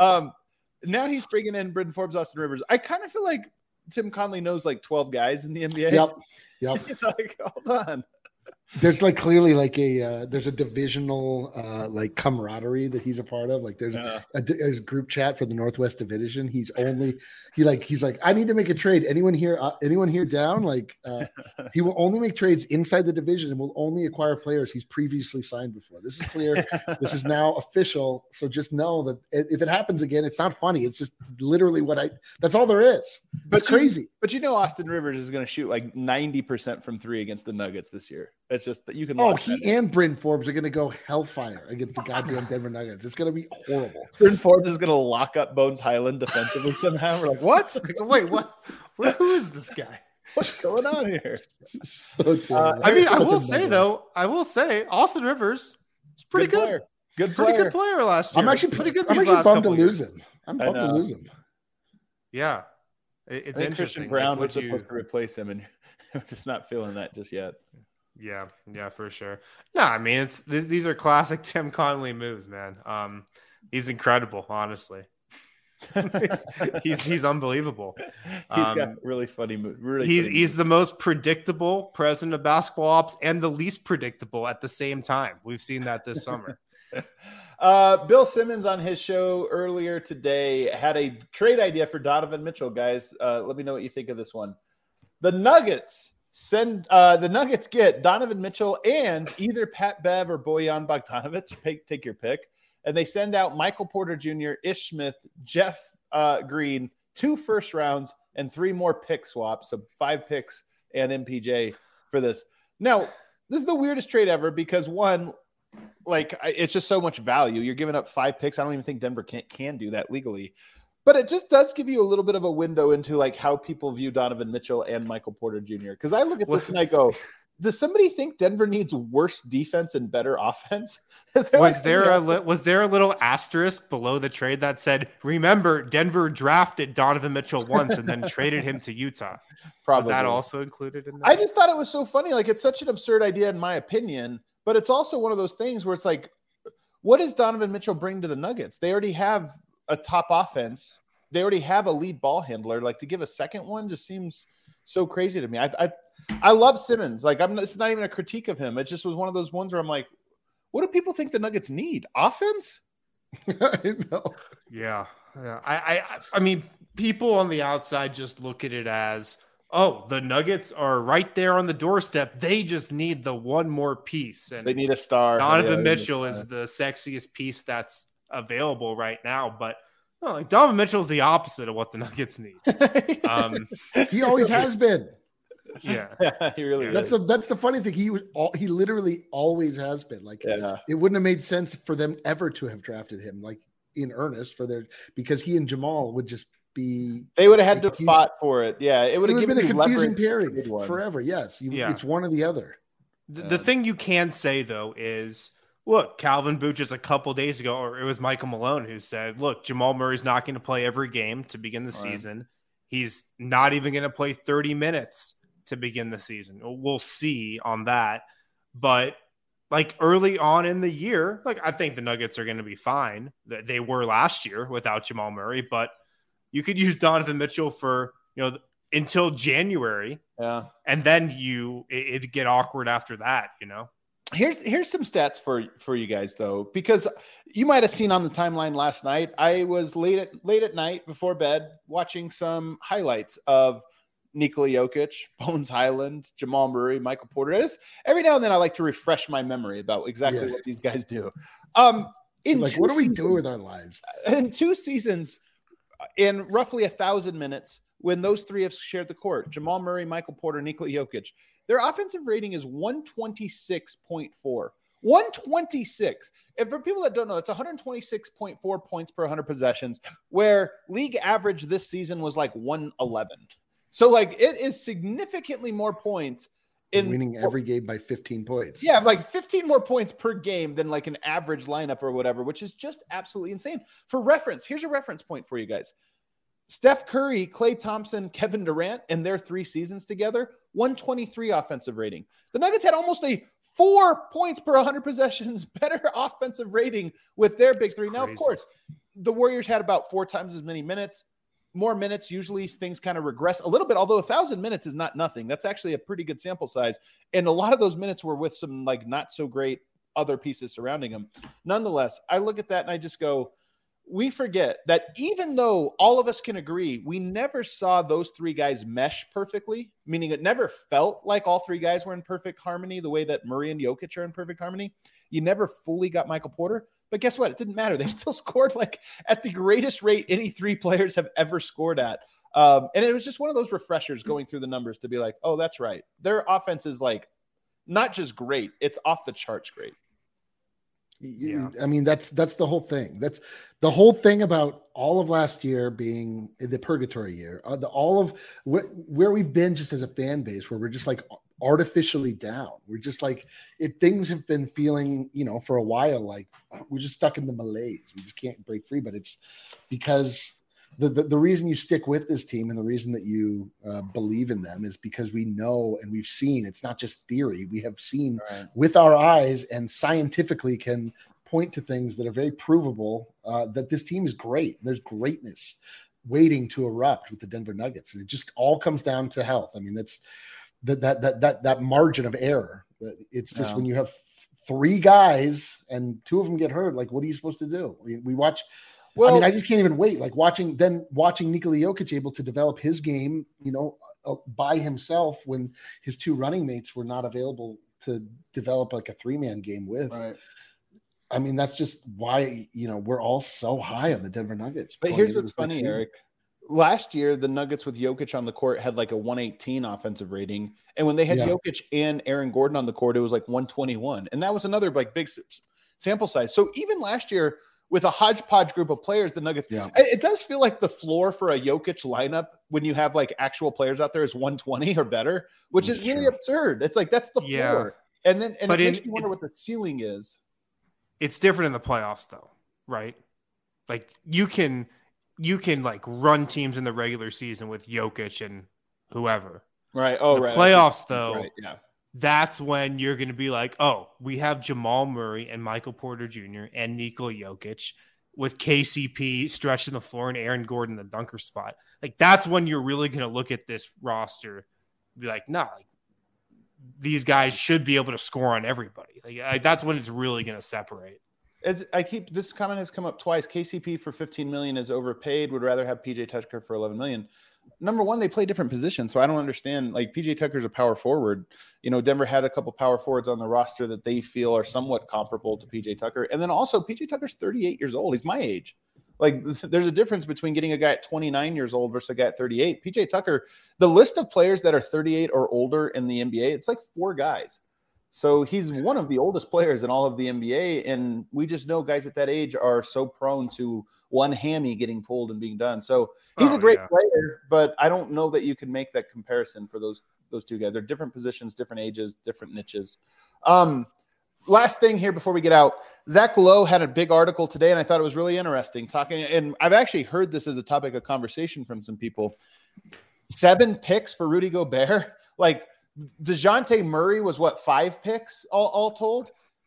Now he's bringing in Bryn Forbes, Austin Rivers. I kind of feel like Tim Conley knows 12 guys in the NBA. Yep. It's hold on. There's clearly there's a divisional camaraderie that he's a part of. There's a group chat for the Northwest Division. He's like, I need to make a trade. Anyone here down? He will only make trades inside the division and will only acquire players he's previously signed before. This is clear. This is now official. So just know that if it happens again, it's not funny. It's just literally that's all there is. It's crazy. But Austin Rivers is going to shoot 90% from 3 against the Nuggets this year. It's just that you can. He and Bryn Forbes are going to go hellfire against the goddamn Denver Nuggets. It's going to be horrible. Bryn Forbes is going to lock up Bones Highland defensively somehow. We're like, what? Wait, what? Who is this guy? What's going on here? I will say Austin Rivers is pretty good. Good player last year. I'm actually pretty good. I'm actually bummed to lose him. I'm bummed to lose him. Yeah, it's interesting. Christian Brown was supposed to replace him, and I'm just not feeling that just yet. Yeah, for sure. No, I mean these are classic Tim Conley moves, man. He's incredible, honestly. he's unbelievable. He's got really funny moves. He's the most predictable president of basketball ops and the least predictable at the same time. We've seen that this summer. Bill Simmons on his show earlier today had a trade idea for Donovan Mitchell. Guys, let me know what you think of this one. The Nuggets get Donovan Mitchell and either Pat Bev or Bojan Bogdanovic. Take your pick. And they send out Michael Porter Jr., Ish Smith, Jeff Green, 2 first rounds, and 3 more pick swaps. So 5 picks and MPJ for this. Now, this is the weirdest trade ever because, one, like it's just so much value. You're giving up 5 picks. I don't even think Denver can do that legally. But it just does give you a little bit of a window into like how people view Donovan Mitchell and Michael Porter Jr. Because I look at this and I go, does somebody think Denver needs worse defense and better offense? Was there a little asterisk below the trade that said, remember, Denver drafted Donovan Mitchell once and then traded him to Utah? Probably. Was that also included in that? I just thought it was so funny. Like, it's such an absurd idea in my opinion, but it's also one of those things where it's like, what does Donovan Mitchell bring to the Nuggets? They already have a top offense. They already have a lead ball handler. Like, to give a second one just seems so crazy to me. I love Simmons. Like, it's not even a critique of him. It just was one of those ones where I'm like, what do people think the Nuggets need? Offense? I know. Yeah. I mean, people on the outside just look at it as, oh, the Nuggets are right there on the doorstep. They just need the one more piece. And they need a star. Donovan Mitchell is the sexiest piece that's available right now. But no, like Donovan Mitchell is the opposite of what the Nuggets need. He always has been. Yeah, he really. That's the funny thing. He literally always has been. Like, it wouldn't have made sense for them ever to have drafted him like in earnest because he and Jamal would just be. They would have had to fought for it. Yeah, it would have been a confusing pairing forever. Yes, it's one or the other. The thing you can say though is, look, Calvin Booth just a couple days ago, or it was Michael Malone who said, look, Jamal Murray's not going to play every game to begin the season. He's not even going to play 30 minutes to begin the season. We'll see on that. But like early on in the year, like I think the Nuggets are going to be fine. They were last year without Jamal Murray, but you could use Donovan Mitchell for, until January. Yeah. And then it'd get awkward after that, Here's some stats for you guys though, because you might have seen on the timeline last night. I was late at night before bed watching some highlights of Nikola Jokic, Bones Highland, Jamal Murray, Michael Porter. Every now and then I like to refresh my memory about exactly what these guys do. What do we do with our lives? In 2 seasons, in roughly 1,000 minutes, when those three have shared the court, Jamal Murray, Michael Porter, Nikola Jokic, their offensive rating is 126.4. 126. And for people that don't know, it's 126.4 points per 100 possessions, where league average this season was like 111. So, like, it is significantly more points in winning every game by 15 points. Yeah, like 15 more points per game than like an average lineup or whatever, which is just absolutely insane. For reference, here's a reference point for you guys. Steph Curry, Klay Thompson, Kevin Durant, in their 3 seasons together, 123 offensive rating. The Nuggets had almost a 4 points per 100 possessions better offensive rating with their big three. Now, of course, the Warriors had about 4 times as many minutes. More minutes, usually things kind of regress a little bit, although 1,000 minutes is not nothing. That's actually a pretty good sample size. And a lot of those minutes were with some like not so great other pieces surrounding them. Nonetheless, I look at that and I just go, we forget that even though all of us can agree, we never saw those 3 guys mesh perfectly, meaning it never felt like all 3 guys were in perfect harmony the way that Murray and Jokic are in perfect harmony. You never fully got Michael Porter. But guess what? It didn't matter. They still scored like at the greatest rate any 3 players have ever scored at. And it was just one of those refreshers going through the numbers to be like, oh, that's right. Their offense is like not just great. It's off the charts great. Yeah. I mean, that's the whole thing. That's the whole thing about all of last year being the purgatory year, all of where we've been just as a fan base, where we're just like artificially down. We're just like, things have been feeling, for a while, like we're just stuck in the malaise. We just can't break free. But it's because the reason you stick with this team and the reason that you believe in them is because we know and we've seen, it's not just theory. We have seen with our eyes and scientifically can point to things that are very provable that this team is great. There's greatness waiting to erupt with the Denver Nuggets. And it just all comes down to health. I mean, that's that margin of error. It's just when you have 3 guys and 2 of them get hurt, like, what are you supposed to do? We watch. Well, I mean, I just can't even wait. Like watching Nikola Jokic able to develop his game, by himself when his 2 running mates were not available to develop like a 3-man game with. Right. I mean, that's just why, we're all so high on the Denver Nuggets. But here's what's funny, Eric. last year, the Nuggets with Jokic on the court had like a 118 offensive rating. And when they had Jokic and Aaron Gordon on the court, it was like 121. And that was another like big sample size. So even last year with a hodgepodge group of players, the Nuggets, it does feel like the floor for a Jokic lineup when you have like actual players out there is 120 or better, which is really absurd. It's like, that's the floor. And then, it makes you wonder what the ceiling is. It's different in the playoffs though, right? Like you can like run teams in the regular season with Jokic and whoever. Right. Oh, the right. Playoffs though. Right. Yeah. That's when you're going to be like, oh, we have Jamal Murray and Michael Porter Jr. and Nikola Jokic with KCP stretching the floor and Aaron Gordon the dunker spot. Like that's when you're really going to look at this roster and be like, nah, like, these guys should be able to score on everybody. Like that's when it's really going to separate. This comment has come up twice. KCP for $15 million is overpaid. Would rather have PJ Tucker for $11 million. Number one, they play different positions, so I don't understand. Like PJ Tucker's a power forward. You know, Denver had a couple power forwards on the roster that they feel are somewhat comparable to PJ Tucker. And then also, PJ Tucker's 38 years old. He's my age. Like, there's a difference between getting a guy at 29 years old versus a guy at 38. PJ Tucker, the list of players that are 38 or older in the NBA, it's like 4 guys. So he's one of the oldest players in all of the NBA, and we just know guys at that age are so prone to one hammy getting pulled and being done. So he's a great player, but I don't know that you can make that comparison for those two guys. They're different positions, different ages, different niches. Last thing here before we get out, Zach Lowe had a big article today, and I thought it was really interesting talking. And I've actually heard this as a topic of conversation from some people. 7 picks for Rudy Gobert. Like, DeJounte Murray was 5 picks all told.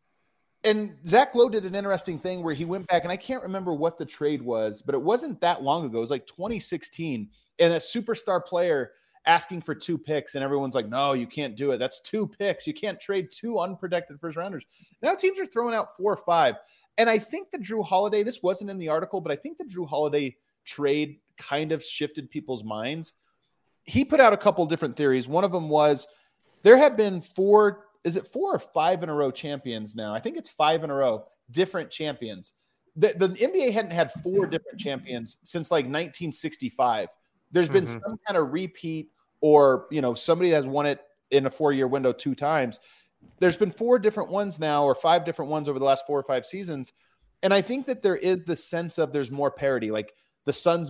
And Zach Lowe did an interesting thing where he went back, and I can't remember what the trade was, but it wasn't that long ago. It was like 2016, and a superstar player asking for 2 picks, and everyone's like, no, you can't do it. That's 2 picks. You can't trade 2 unprotected first rounders. Now teams are throwing out 4 or 5. And I think the Drew Holiday, this wasn't in the article, but I think the Drew Holiday trade kind of shifted people's minds. He put out a couple different theories. One of them was there have been 4 or 5 in a row champions now? I think it's 5 in a row, different champions. The NBA hadn't had 4 different champions since like 1965. There's been some kind of repeat, or, you know, somebody has won it in a 4-year window 2 times. There's been 4 different ones now, or 5 different ones over the last 4 or 5 seasons. And I think that there is the sense of there's more parity. Like the Suns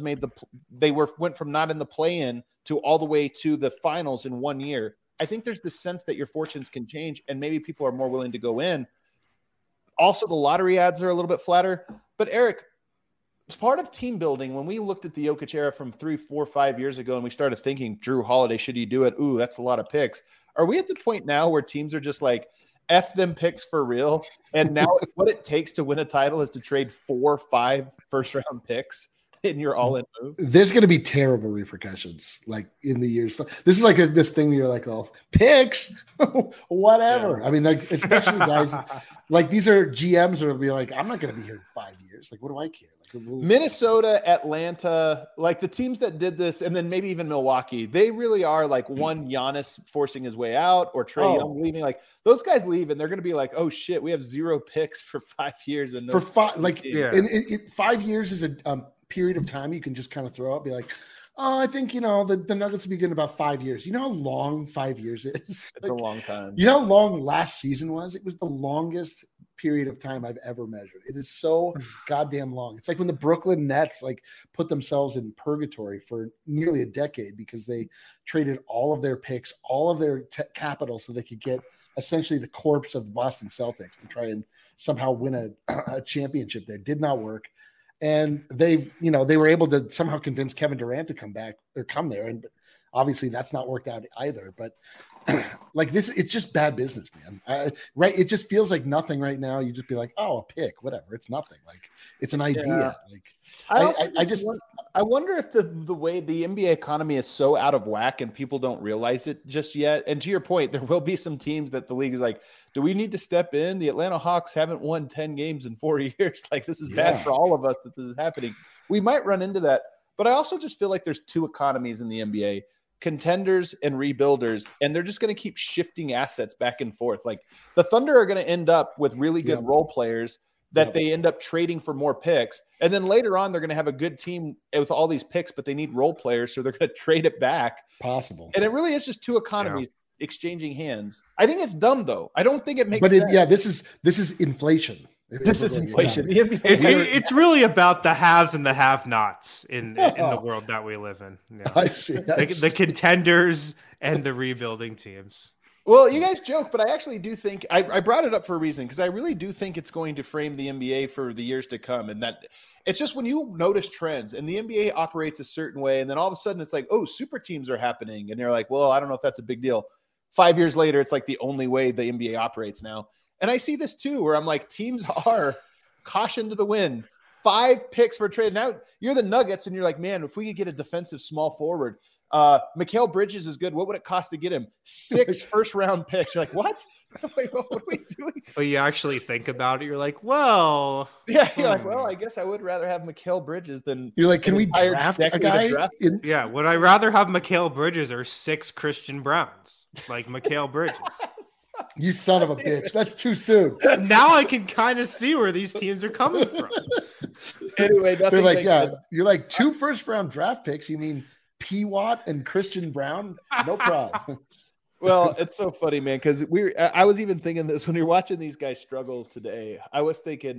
went from not in the play-in to all the way to the finals in 1 year. I think there's this sense that your fortunes can change, and maybe people are more willing to go in. Also, the lottery odds are a little bit flatter. But Eric, part of team building, when we looked at the Jokic era from 3, 4, 5 years ago, and we started thinking, Drew Holiday, should you do it? Ooh, that's a lot of picks. Are we at the point now where teams are just like, F them picks for real? And now what it takes to win a title is to trade 4 or 5 first-round picks in your all-in move? There's going to be terrible repercussions, like in the years. This is like this thing where you're like, oh, picks, whatever. Yeah. I mean, like, especially guys, like these are GMs who will be like, I'm not going to be here in 5 years. Like, what do I care? Like, Minnesota, Atlanta, like the teams that did this, and then maybe even Milwaukee, they really are like one Giannis forcing his way out, or Trae Young leaving. Like those guys leave, and they're going to be like, oh shit, we have 0 picks for 5 years. And for 5, like, and 5 years is a period of time you can just kind of throw out, be like, oh, I think, you know, the Nuggets will be good in about 5 years. You know how long 5 years is? It's like, a long time. You know how long last season was? It was the longest period of time I've ever measured. It is so goddamn long. It's like when the Brooklyn Nets like put themselves in purgatory for nearly a decade because they traded all of their picks, all of their capital, so they could get essentially the corpse of the Boston Celtics to try and somehow win a championship there. Did not work. And they were able to somehow convince Kevin Durant to come back or come there. And obviously that's not worked out either. But like this, it's just bad business, man. Right. It just feels like nothing right now. You just be like, oh, a pick, whatever. It's nothing. Like it's an idea. Yeah. Like I wonder if the way the NBA economy is so out of whack and people don't realize it just yet. And to your point, there will be some teams that the league is like, do we need to step in? The Atlanta Hawks haven't won 10 games in 4 years. Like this is bad for all of us that this is happening. We might run into that. But I also just feel like there's 2 economies in the NBA. Contenders and rebuilders, and they're just going to keep shifting assets back and forth. Like the Thunder are going to end up with really good role players that they end up trading for more picks. And then later on, they're going to have a good team with all these picks, but they need role players. So they're going to trade it back. Possible. And it really is just two economies exchanging hands. I think it's dumb, though. I don't think it makes sense. This is inflation. This is inflation. It's really about the haves and the have-nots in the world that we live in. You know? I see. The contenders and the rebuilding teams. Well, you guys joke, but I actually do think I brought it up for a reason, because I really do think it's going to frame the NBA for the years to come. And that it's just when you notice trends and the NBA operates a certain way, and then all of a sudden it's like, oh, super teams are happening. And you're like, well, I don't know if that's a big deal. 5 years later, it's like the only way the NBA operates now. And I see this too, where I'm like, teams are caution to the wind. 5 picks for a trade. Now you're the Nuggets and you're like, man, if we could get a defensive small forward, Mikal Bridges is good. What would it cost to get him? 6 first-round picks. You're like, what? Like, what are we doing? But you actually think about it. You're like, well. Yeah, you're like, well, I guess I would rather have Mikal Bridges than. You're like, can we draft a guy? Yeah, would I rather have Mikal Bridges or 6 Christian Browns? Like Mikal Bridges. You son of a bitch. That's too soon. Now I can kind of see where these teams are coming from. Anyway, they're like, yeah, you're like 2 first-round draft picks. You mean P. Watt and Christian Brown? No problem. Well, it's so funny, man, because I was even thinking this when you're watching these guys struggle today. I was thinking,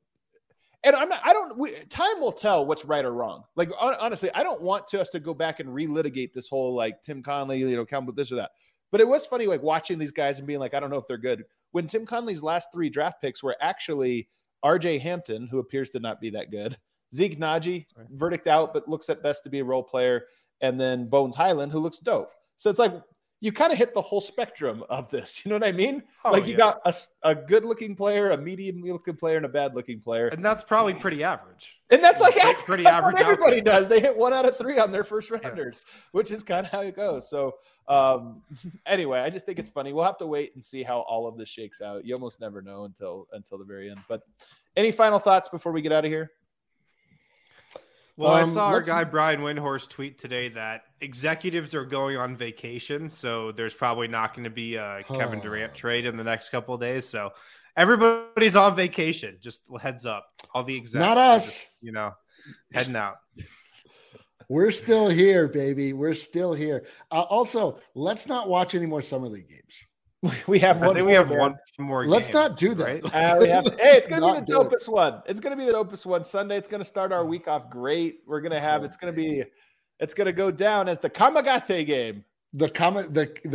and time will tell what's right or wrong. Like, honestly, I don't want us to go back and relitigate this whole, like, Tim Conley, count with this or that. But it was funny, like, watching these guys and being like, I don't know if they're good. When Tim Conley's last 3 draft picks were actually RJ Hampton, who appears to not be that good, Zeke Naji, verdict out, but looks at best to be a role player, and then Bones Highland, who looks dope. So it's like you kind of hit the whole spectrum of this. You know what I mean? You got a good-looking player, a medium-looking player, and a bad-looking player. And that's probably pretty average. And that's like pretty that's average. What everybody does. They hit 1 out of 3 on their first rounders, which is kind of how it goes. So anyway, I just think it's funny. We'll have to wait and see how all of this shakes out. You almost never know until the very end. But any final thoughts before we get out of here? Well, I saw our guy Brian Windhorst tweet today that executives are going on vacation, so there's probably not going to be a Kevin Durant trade in the next couple of days. So everybody's on vacation. Just heads up. All the executives. Not us. Just, heading out. We're still here, baby. We're still here. Also, let's not watch any more Summer League games. We have one. I think we have one more. Let's not do that. Right? It's going to be the dopest one. It's going to be the dopest one Sunday. It's going to start our week off great. We're going to have. It's going to go down as the Kamagate game. The comeback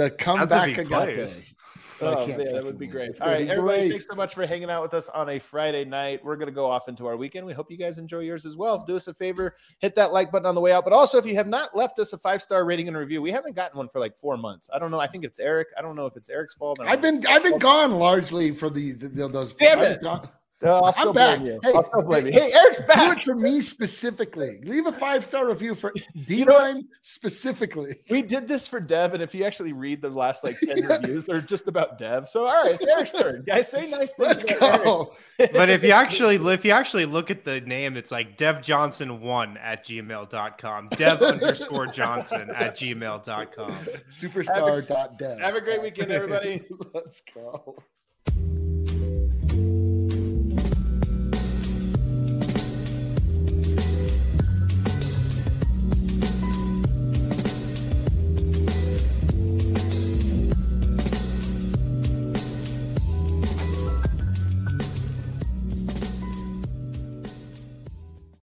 Agate. Oh, yeah, that would be great. All right, everybody, thanks so much for hanging out with us on a Friday night. We're going to go off into our weekend. We hope you guys enjoy yours as well. Do us a favor, hit that like button on the way out. But also, if you have not left us a 5-star rating and review, we haven't gotten one for like 4 months. I don't know. I think it's Eric. I don't know if it's Eric's fault. I've been gone largely for those. Damn it. I'm back. I'll still blame you. Hey, Eric's back. Do it for me specifically. Leave a 5-star review for D-Line specifically. We did this for Dev, and if you actually read the last 10 reviews, they're just about Dev. So, all right, it's Eric's turn. Guys, say nice things. Let's go. But if you actually look at the name, it's like devjohnson1@gmail.com. Dev_Johnson@gmail.com. Superstar.dev. Have a great weekend, everybody. Let's go.